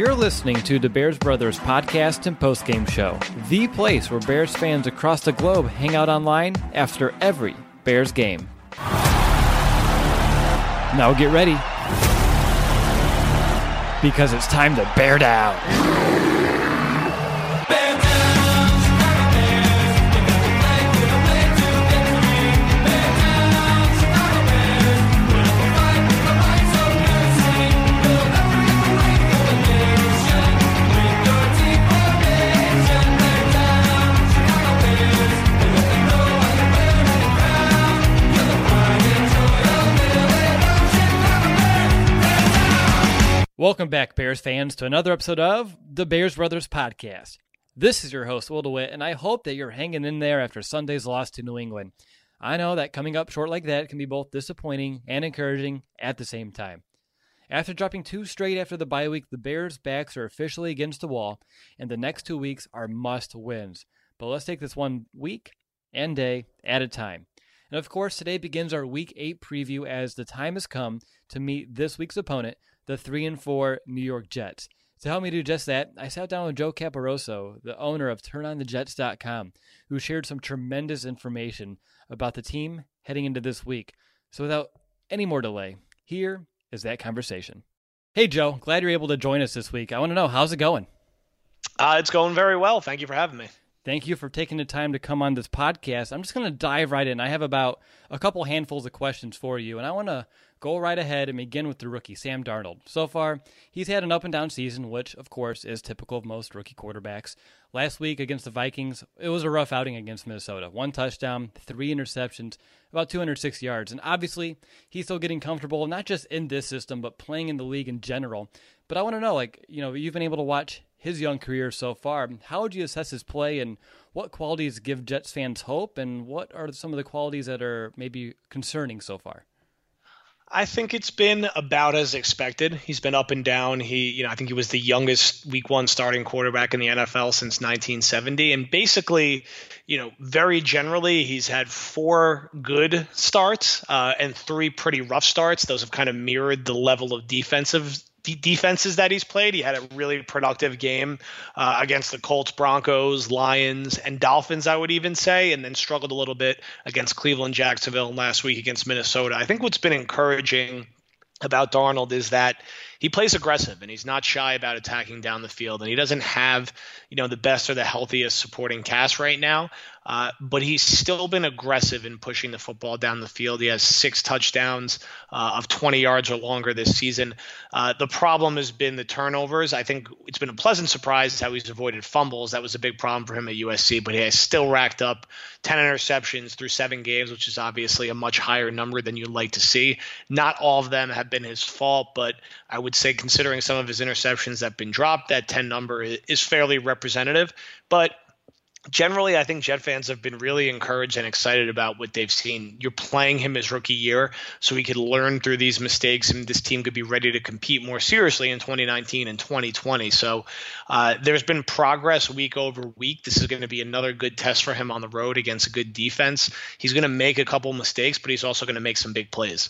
You're listening to the Bears Brothers podcast and postgame show, the place where Bears fans across the globe hang out online after every Bears game. Now get ready, because it's time to bear down. Welcome back, Bears fans, to another episode of the Bears Brothers podcast. This is your host, Will DeWitt, and I hope that you're hanging in there after Sunday's loss to New England. I know that coming up short like that can be both disappointing and encouraging at the same time. After dropping two straight after the bye week, the Bears' backs are officially against the wall, and the next 2 weeks are must-wins. But let's take this one week and day at a time. And of course, today begins our Week 8 preview as the time has come to meet this week's opponent, the 3-4 New York Jets. To help me do just that, I sat down with Joe Caporoso, the owner of TurnOnTheJets.com, who shared some tremendous information about the team heading into this week. So without any more delay, here is that conversation. Hey Joe, glad you're able to join us this week. I want to know, how's it going? It's going very well. Thank you for having me. Thank you for taking the time to come on this podcast. I'm just going to dive right in. I have about a couple handfuls of questions for you, and I want to go right ahead and begin with the rookie, Sam Darnold. So far, he's had an up-and-down season, which, of course, is typical of most rookie quarterbacks. Last week against the Vikings, it was a rough outing against Minnesota. 1 touchdown, 3 interceptions, about 206 yards. And obviously, he's still getting comfortable, not just in this system, but playing in the league in general. But I want to know, you've been able to watch his young career so far. How would you assess his play, and what qualities give Jets fans hope, and what are some of the qualities that are maybe concerning so far? I think it's been about as expected. He's been up and down. I think he was the youngest Week 1 starting quarterback in the NFL since 1970. And basically, very generally, he's had 4 good starts and 3 pretty rough starts. Those have kind of mirrored the level of defenses that he's played. He had a really productive game against the Colts, Broncos, Lions, and Dolphins, I would even say, and then struggled a little bit against Cleveland, Jacksonville, and last week against Minnesota. I think what's been encouraging about Darnold is that he plays aggressive and he's not shy about attacking down the field, and he doesn't have, the best or the healthiest supporting cast right now. But he's still been aggressive in pushing the football down the field. He has 6 touchdowns of 20 yards or longer this season. The problem has been the turnovers. I think it's been a pleasant surprise how he's avoided fumbles. That was a big problem for him at USC, but he has still racked up 10 interceptions through 7 games, which is obviously a much higher number than you'd like to see. Not all of them have been his fault, but I would say considering some of his interceptions that have been dropped, that 10 number is fairly representative. But generally, I think Jet fans have been really encouraged and excited about what they've seen. You're playing him his rookie year so he could learn through these mistakes, and this team could be ready to compete more seriously in 2019 and 2020. So there's been progress week over week. This is going to be another good test for him on the road against a good defense. He's going to make a couple mistakes, but he's also going to make some big plays.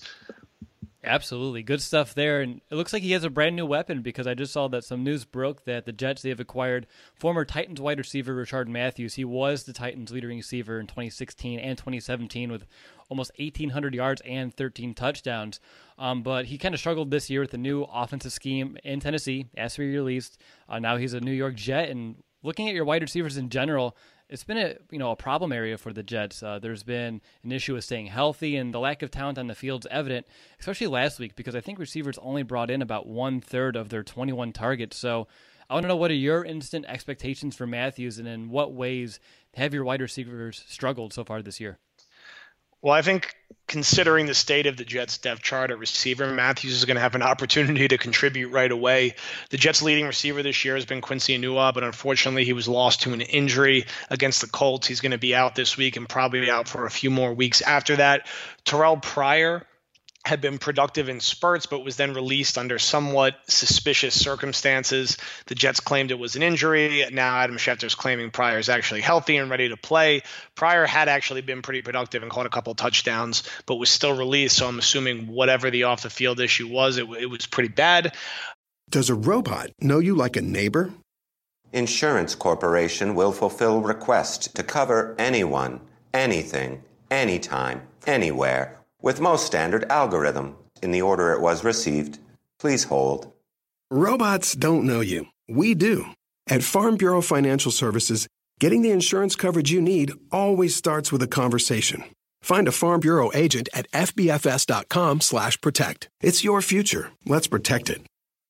Absolutely. Good stuff there. And it looks like he has a brand new weapon, because I just saw that some news broke that the Jets, they have acquired former Titans wide receiver Rishard Matthews. He was the Titans leading receiver in 2016 and 2017 with almost 1,800 yards and 13 touchdowns. But he kind of struggled this year with the new offensive scheme in Tennessee as he released. Now he's a New York Jet. And looking at your wide receivers in general, it's been a problem area for the Jets. There's been an issue with staying healthy, and the lack of talent on the field is evident, especially last week, because I think receivers only brought in about 1/3 of their 21 targets. So I want to know, what are your instant expectations for Matthews, and in what ways have your wide receivers struggled so far this year? Well, I think considering the state of the Jets depth chart at receiver, Matthews is going to have an opportunity to contribute right away. The Jets' leading receiver this year has been Quincy Enunwa, but unfortunately he was lost to an injury against the Colts. He's going to be out this week and probably out for a few more weeks after that. Terrell Pryor had been productive in spurts, but was then released under somewhat suspicious circumstances. The Jets claimed it was an injury. Now Adam Schefter's claiming Pryor is actually healthy and ready to play. Pryor had actually been pretty productive and caught a couple touchdowns, but was still released. So I'm assuming whatever the off the field issue was, it was pretty bad. Does a robot know you like a neighbor? Insurance Corporation will fulfill request to cover anyone, anything, anytime, anywhere, with most standard algorithm in the order it was received. Please hold. Robots don't know you. We do. At Farm Bureau Financial Services, getting the insurance coverage you need always starts with a conversation. Find a Farm Bureau agent at fbfs.com/protect. It's your future. Let's protect it.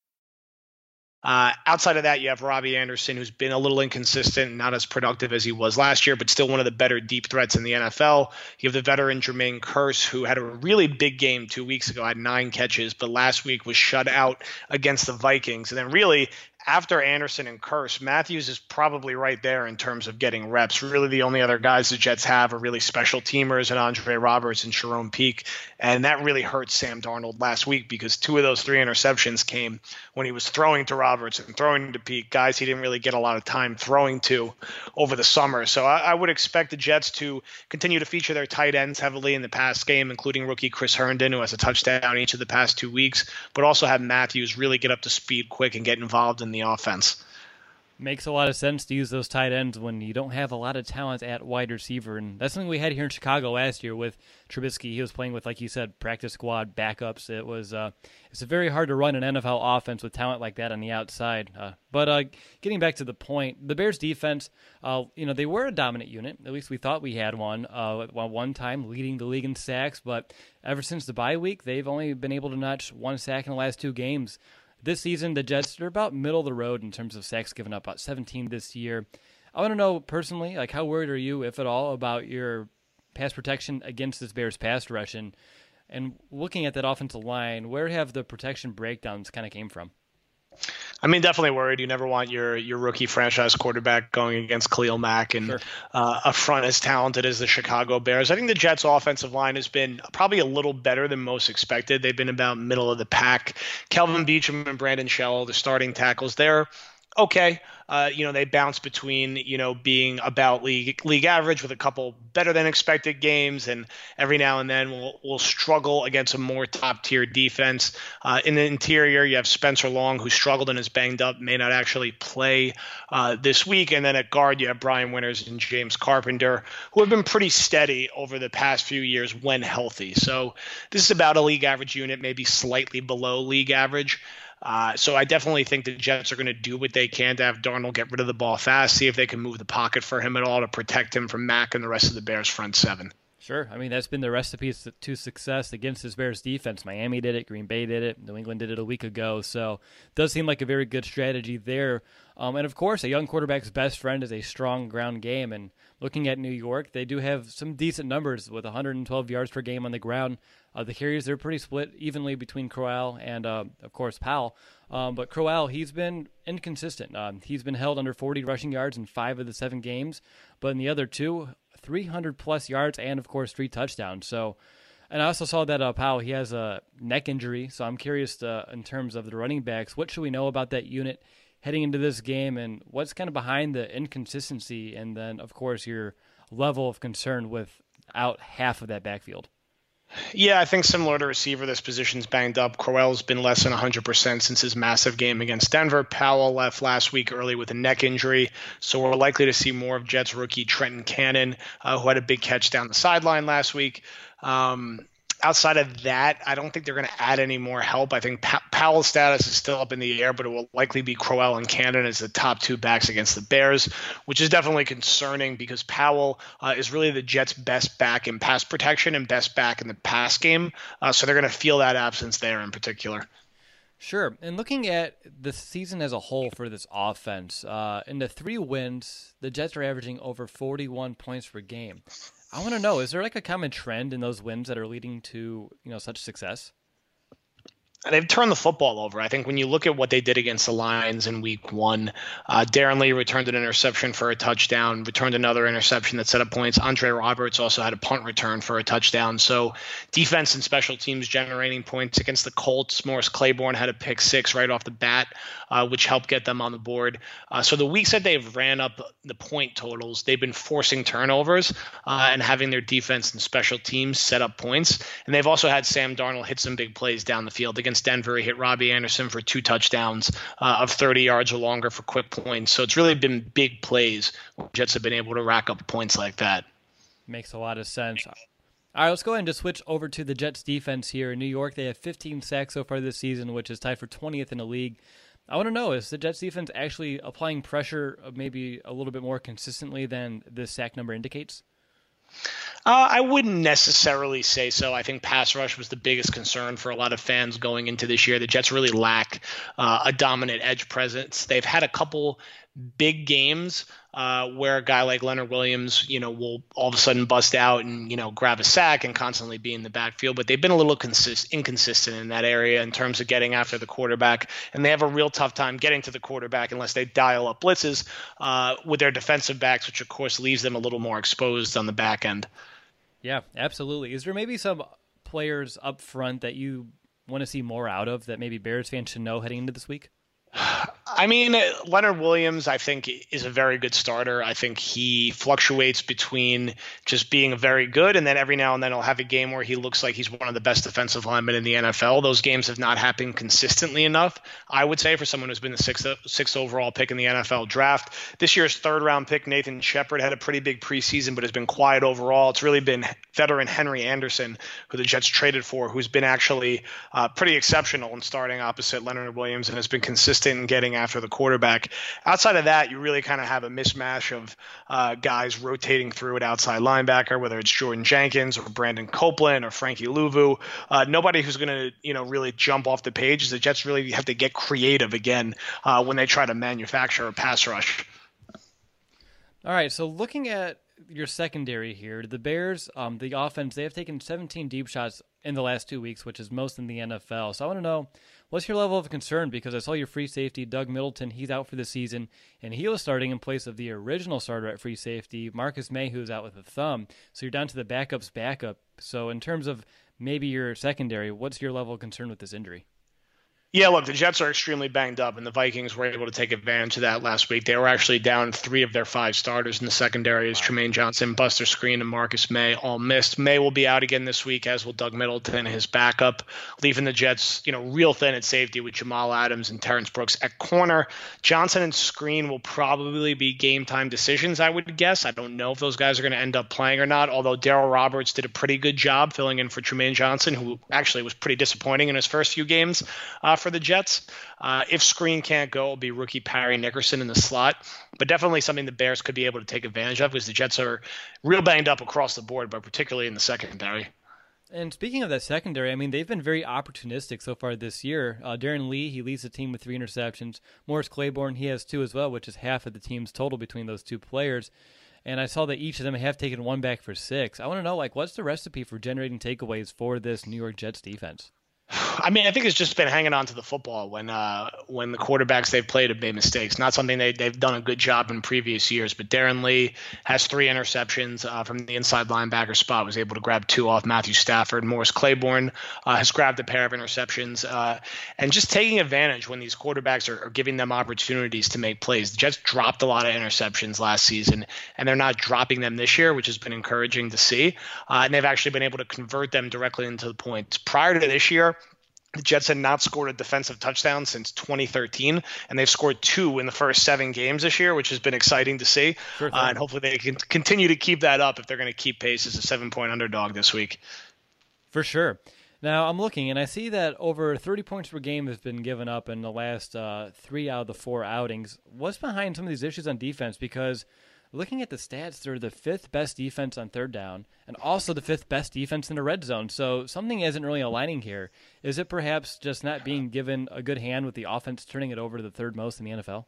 Outside of that, you have Robbie Anderson, who's been a little inconsistent, not as productive as he was last year, but still one of the better deep threats in the NFL. You have the veteran Jermaine Kearse, who had a really big game 2 weeks ago, had 9 catches, but last week was shut out against the Vikings. And then really, after Anderson and Kearse, Matthews is probably right there in terms of getting reps. Really, the only other guys the Jets have are really special teamers and Andre Roberts and Jerome Peak. And that really hurt Sam Darnold last week because 2 of those 3 interceptions came when he was throwing to Roberts and throwing to Peak, guys he didn't really get a lot of time throwing to over the summer. So I would expect the Jets to continue to feature their tight ends heavily in the pass game, including rookie Chris Herndon, who has a touchdown each of the past 2 weeks, but also have Matthews really get up to speed quick and get involved in the offense. Makes a lot of sense to use those tight ends when you don't have a lot of talent at wide receiver. And that's something we had here in Chicago last year with Trubisky. He was playing with, like you said, practice squad backups. It's very hard to run an NFL offense with talent like that on the outside. But getting back to the point, the Bears defense, they were a dominant unit. At least we thought we had one at one time, leading the league in sacks. But ever since the bye week, they've only been able to notch 1 sack in the last 2 games. This season, the Jets are about middle of the road in terms of sacks given up, about 17 this year. I want to know personally, how worried are you, if at all, about your pass protection against this Bears pass rush? And looking at that offensive line, where have the protection breakdowns kind of came from? I mean, definitely worried. You never want your rookie franchise quarterback going against Khalil Mack and Sure. A front as talented as the Chicago Bears. I think the Jets' offensive line has been probably a little better than most expected. They've been about middle of the pack. Kelvin Beachum and Brandon Shell, the starting tackles, they're okay. They bounce between, being about league average with a couple better than expected games, and every now and then we'll struggle against a more top tier defense. In the interior, you have Spencer Long, who struggled and is banged up, may not actually play this week. And then at guard, you have Brian Winters and James Carpenter, who have been pretty steady over the past few years when healthy. So this is about a league average unit, maybe slightly below league average. So I definitely think the Jets are going to do what they can to have Darnold get rid of the ball fast, see if they can move the pocket for him at all to protect him from Mack and the rest of the Bears front seven. Sure. I mean, that's been the recipe to success against this Bears defense. Miami did it. Green Bay did it. New England did it a week ago. So it does seem like a very good strategy there. And, of course, a young quarterback's best friend is a strong ground game. And looking at New York, they do have some decent numbers with 112 yards per game on the ground. The carries, they're pretty split evenly between Crowell and, of course, Powell. But Crowell, he's been inconsistent. He's been held under 40 rushing yards in 5 of the 7 games. But in the other 2, 300-plus yards and, of course, 3 touchdowns. So, and I also saw that Powell, he has a neck injury. So I'm curious in terms of the running backs, what should we know about that unit heading into this game, and what's kind of behind the inconsistency, and then, of course, your level of concern without half of that backfield? Yeah, I think similar to receiver, this position's banged up. Crowell's been less than 100% since his massive game against Denver. Powell left last week early with a neck injury, so we're likely to see more of Jets rookie Trenton Cannon, who had a big catch down the sideline last week. Outside of that, I don't think they're going to add any more help. I think Powell's status is still up in the air, but it will likely be Crowell and Cannon as the top 2 backs against the Bears, which is definitely concerning because Powell is really the Jets' best back in pass protection and best back in the pass game. So they're going to feel that absence there in particular. Sure. And looking at the season as a whole for this offense, in the 3 wins, the Jets are averaging over 41 points per game. I want to know, is there a common trend in those wins that are leading to, such success? They've turned the football over. I think when you look at what they did against the Lions in week 1, Darren Lee returned an interception for a touchdown, returned another interception that set up points. Andre Roberts also had a punt return for a touchdown. So defense and special teams generating points against the Colts. Morris Claiborne had a pick 6 right off the bat, which helped get them on the board. So the weeks that they've ran up the point totals, they've been forcing turnovers and having their defense and special teams set up points. And they've also had Sam Darnold hit some big plays down the field. Against against Denver. He hit Robbie Anderson for 2 touchdowns of 30 yards or longer for quick points. So it's really been big plays where Jets have been able to rack up points like that. Makes a lot of sense. All right, let's go ahead and just switch over to the Jets defense here in New York. They have 15 sacks so far this season, which is tied for 20th in the league. I want to know, is the Jets defense actually applying pressure maybe a little bit more consistently than the sack number indicates? I wouldn't necessarily say so. I think pass rush was the biggest concern for a lot of fans going into this year. The Jets really lack a dominant edge presence. They've had a couple big games where a guy like Leonard Williams, will all of a sudden bust out and, grab a sack and constantly be in the backfield. But they've been a little inconsistent in that area in terms of getting after the quarterback. And they have a real tough time getting to the quarterback unless they dial up blitzes with their defensive backs, which, of course, leaves them a little more exposed on the back end. Yeah, absolutely. Is there maybe some players up front that you want to see more out of that maybe Bears fans should know heading into this week? I mean, Leonard Williams, I think, is a very good starter. I think he fluctuates between just being very good and then every now and then he'll have a game where he looks like he's one of the best defensive linemen in the NFL. Those games have not happened consistently enough, I would say, for someone who's been the sixth overall pick in the NFL draft. This year's third-round pick, Nathan Shepard, had a pretty big preseason but has been quiet overall. It's really been veteran Henry Anderson, who the Jets traded for, who's been actually pretty exceptional in starting opposite Leonard Williams and has been consistent in getting after the quarterback. Outside of that, you really kind of have a mismatch of guys rotating through at outside linebacker, whether it's Jordan Jenkins or Brandon Copeland or Frankie Louvu. Nobody who's going to, really jump off the page. The Jets really have to get creative again when they try to manufacture a pass rush. All right, so looking at your secondary here, the Bears, the offense, they have taken 17 deep shots in the last 2 weeks, which is most in the NFL. So I want to know, what's your level of concern? Because I saw your free safety, Doug Middleton, he's out for the season, and he was starting in place of the original starter at free safety, Marcus May, who's out with a thumb. So you're down to the backup's backup. So in terms of maybe your secondary, what's your level of concern with this injury? Yeah, look, the Jets are extremely banged up, and the Vikings were able to take advantage of that last week. They were actually down 3 of their 5 starters in the secondary as Tremaine Johnson, Buster Skrine, and Marcus May all missed. May will be out again this week, as will Doug Middleton, his backup, leaving the Jets, real thin at safety with Jamal Adams and Terrence Brooks at corner. Johnson and Skrine will probably be game-time decisions, I would guess. I don't know if those guys are going to end up playing or not, although Darryl Roberts did a pretty good job filling in for Tremaine Johnson, who actually was pretty disappointing in his first few games for the Jets. If Skrine can't go, it'll be rookie Parry Nickerson in the slot, but definitely something the Bears could be able to take advantage of because the Jets are real banged up across the board, but particularly in the secondary. And speaking of that secondary, I mean, they've been very opportunistic so far this year. Darren Lee, he leads the team with 3 interceptions. Morris Claiborne, he has 2 as well, which is half of the team's total between those 2 players. And I saw that each of them have taken 1 back for 6. I want to know, what's the recipe for generating takeaways for this New York Jets defense? I mean, I think it's just been hanging on to the football when the quarterbacks they've played have made mistakes. Not something they've done a good job in previous years. But Darren Lee has 3 interceptions from the inside linebacker spot, was able to grab 2 off Matthew Stafford. Morris Claiborne has grabbed a pair of interceptions. And just taking advantage when these quarterbacks are giving them opportunities to make plays. The Jets dropped a lot of interceptions last season, and they're not dropping them this year, which has been encouraging to see. And they've actually been able to convert them directly into the points. Prior to this year, the Jets had not scored a defensive touchdown since 2013, and they've scored 2 in the first 7 games this year, which has been exciting to see. Sure and hopefully they can continue to keep that up if they're going to keep pace as a 7-point underdog this week. For sure. Now, I'm looking, and I see that over 30 points per game has been given up in the last 3 out of the 4 outings. What's behind some of these issues on defense? Because looking at the stats, they're the 5th best defense on third down and also the 5th best defense in the red zone. So something isn't really aligning here. Is it perhaps just not being given a good hand with the offense turning it over to the 3rd most in the NFL?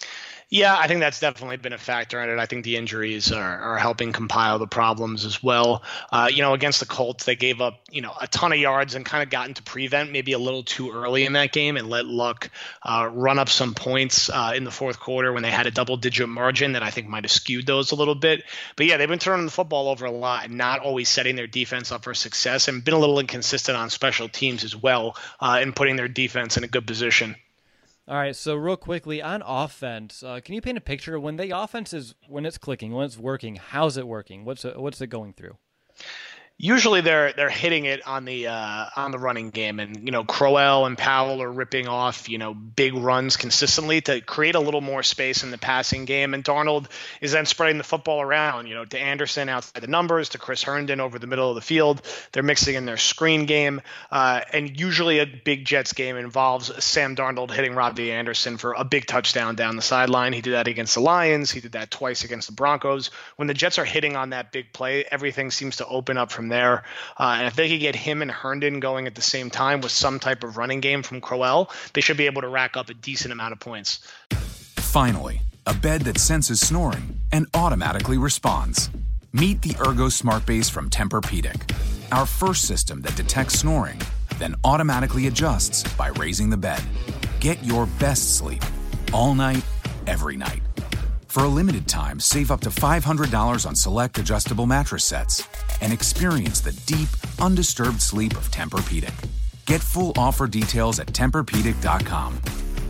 Yeah, I think that's definitely been a factor in it. I think the injuries are helping compile the problems as well. Against the Colts, they gave up, a ton of yards and kind of got into prevent maybe a little too early in that game and let Luck run up some points in the 4th quarter when they had a double-digit margin that I think might have skewed those a little bit. But yeah, they've been turning the football over a lot and not always setting their defense up for success and been a little inconsistent on special teams as well in putting their defense in a good position. All right, so real quickly, on offense, can you paint a picture when the offense is, when it's clicking, when it's working, how's it working? What's it going through? Usually they're hitting it on the running game, and Crowell and Powell are ripping off big runs consistently to create a little more space in the passing game, and Darnold is then spreading the football around to Anderson outside the numbers, to Chris Herndon over the middle of the field. They're mixing in their screen game, and usually a big Jets game involves Sam Darnold hitting Robbie Anderson for a big touchdown down the sideline. He did that against the Lions. He did that twice against the Broncos. When the Jets are hitting on that big play, everything seems to open up from there. And if they could get him and Herndon going at the same time with some type of running game from Crowell, they should be able to rack up a decent amount of points. Finally, a bed that senses snoring and automatically responds. Meet the Ergo Smart Base from Tempur-Pedic, our first system that detects snoring, then automatically adjusts by raising the bed. Get your best sleep all night, every night. For a limited time, save up to $500 on select adjustable mattress sets and experience the deep, undisturbed sleep of Tempur-Pedic. Get full offer details at TempurPedic.com.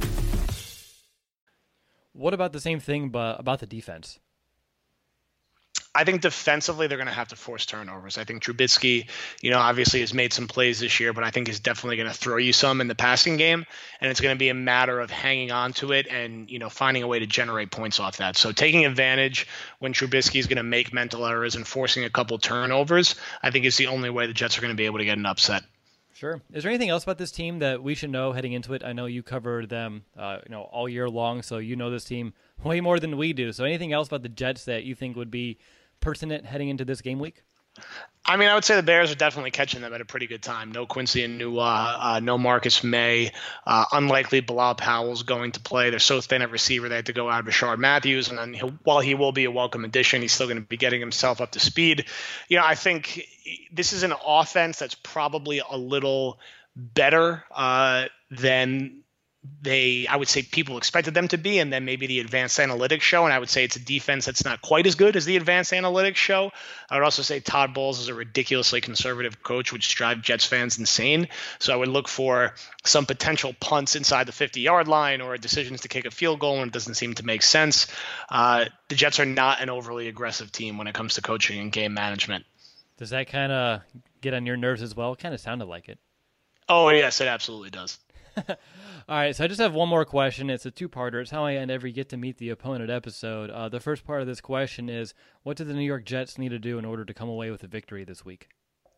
What about the same thing, but about the defense? I think defensively they're going to have to force turnovers. I think Trubisky, obviously has made some plays this year, but I think is definitely going to throw you some in the passing game, and it's going to be a matter of hanging on to it and, finding a way to generate points off that. So taking advantage when Trubisky is going to make mental errors and forcing a couple turnovers, I think is the only way the Jets are going to be able to get an upset. Sure. Is there anything else about this team that we should know heading into it? I know you covered them, all year long, so you know this team way more than we do. So anything else about the Jets that you think would be pertinent heading into this game week? I mean, I would say the Bears are definitely catching them at a pretty good time. No Quincy Enunwa, no Marcus May. Unlikely Bilal Powell's going to play. They're so thin at receiver they had to go out of Rashard Matthews. And then while he will be a welcome addition, he's still going to be getting himself up to speed. I think this is an offense that's probably a little better than I would say people expected them to be, and then maybe the advanced analytics show. And I would say it's a defense that's not quite as good as the advanced analytics show. I would also say Todd Bowles is a ridiculously conservative coach, which drives Jets fans insane. So I would look for some potential punts inside the 50-yard line or decisions to kick a field goal when it doesn't seem to make sense. The Jets are not an overly aggressive team when it comes to coaching and game management. Does that kind of get on your nerves as well? It kind of sounded like it. Oh, yes, it absolutely does. All right, so I just have one more question. It's a two-parter. It's how I end every Get to Meet the Opponent episode. The first part of this question is, what do the New York Jets need to do in order to come away with a victory this week?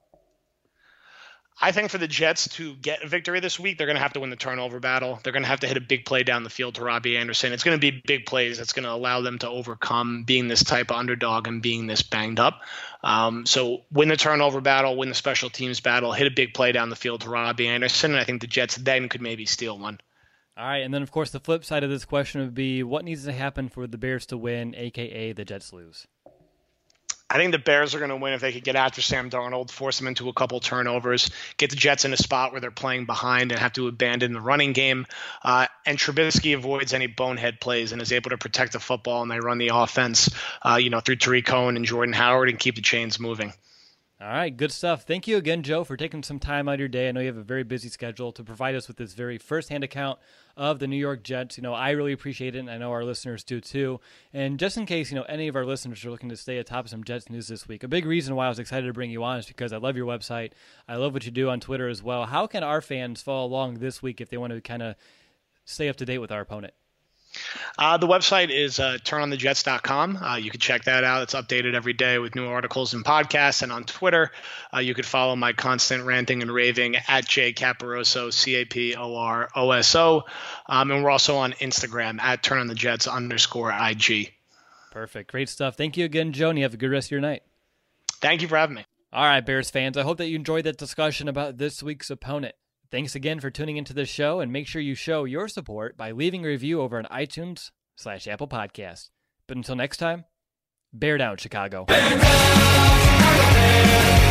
I think for the Jets to get a victory this week, they're going to have to win the turnover battle. They're going to have to hit a big play down the field to Robbie Anderson. It's going to be big plays that's going to allow them to overcome being this type of underdog and being this banged up. So win the turnover battle, win the special teams battle, hit a big play down the field to Robbie Anderson, and I think the Jets then could maybe steal one. All right, and then, of course, the flip side of this question would be, what needs to happen for the Bears to win, a.k.a. the Jets lose? I think the Bears are going to win if they could get after Sam Darnold, force him into a couple turnovers, get the Jets in a spot where they're playing behind and have to abandon the running game. And Trubisky avoids any bonehead plays and is able to protect the football, and they run the offense, through Tariq Cohen and Jordan Howard and keep the chains moving. All right, good stuff. Thank you again, Joe, for taking some time out of your day. I know you have a very busy schedule to provide us with this very firsthand account of the New York Jets. I really appreciate it, and I know our listeners do too. And just in case, any of our listeners are looking to stay atop of some Jets news this week, a big reason why I was excited to bring you on is because I love your website. I love what you do on Twitter as well. How can our fans follow along this week if they want to kind of stay up to date with our opponent? The website is turnonthejets.com. You can check that out. It's updated every day with new articles and podcasts. And on Twitter, you could follow my constant ranting and raving at jcaparoso, CAPOROSO. And we're also on Instagram at turnonthejets_IG. Perfect. Great stuff. Thank you again, Joe, and you have a good rest of your night. Thank you for having me. All right, Bears fans, I hope that you enjoyed that discussion about this week's opponent. Thanks again for tuning into this show, and make sure you show your support by leaving a review over on iTunes/Apple Podcasts. But until next time, bear down, Chicago. Bear down, Chicago Bears.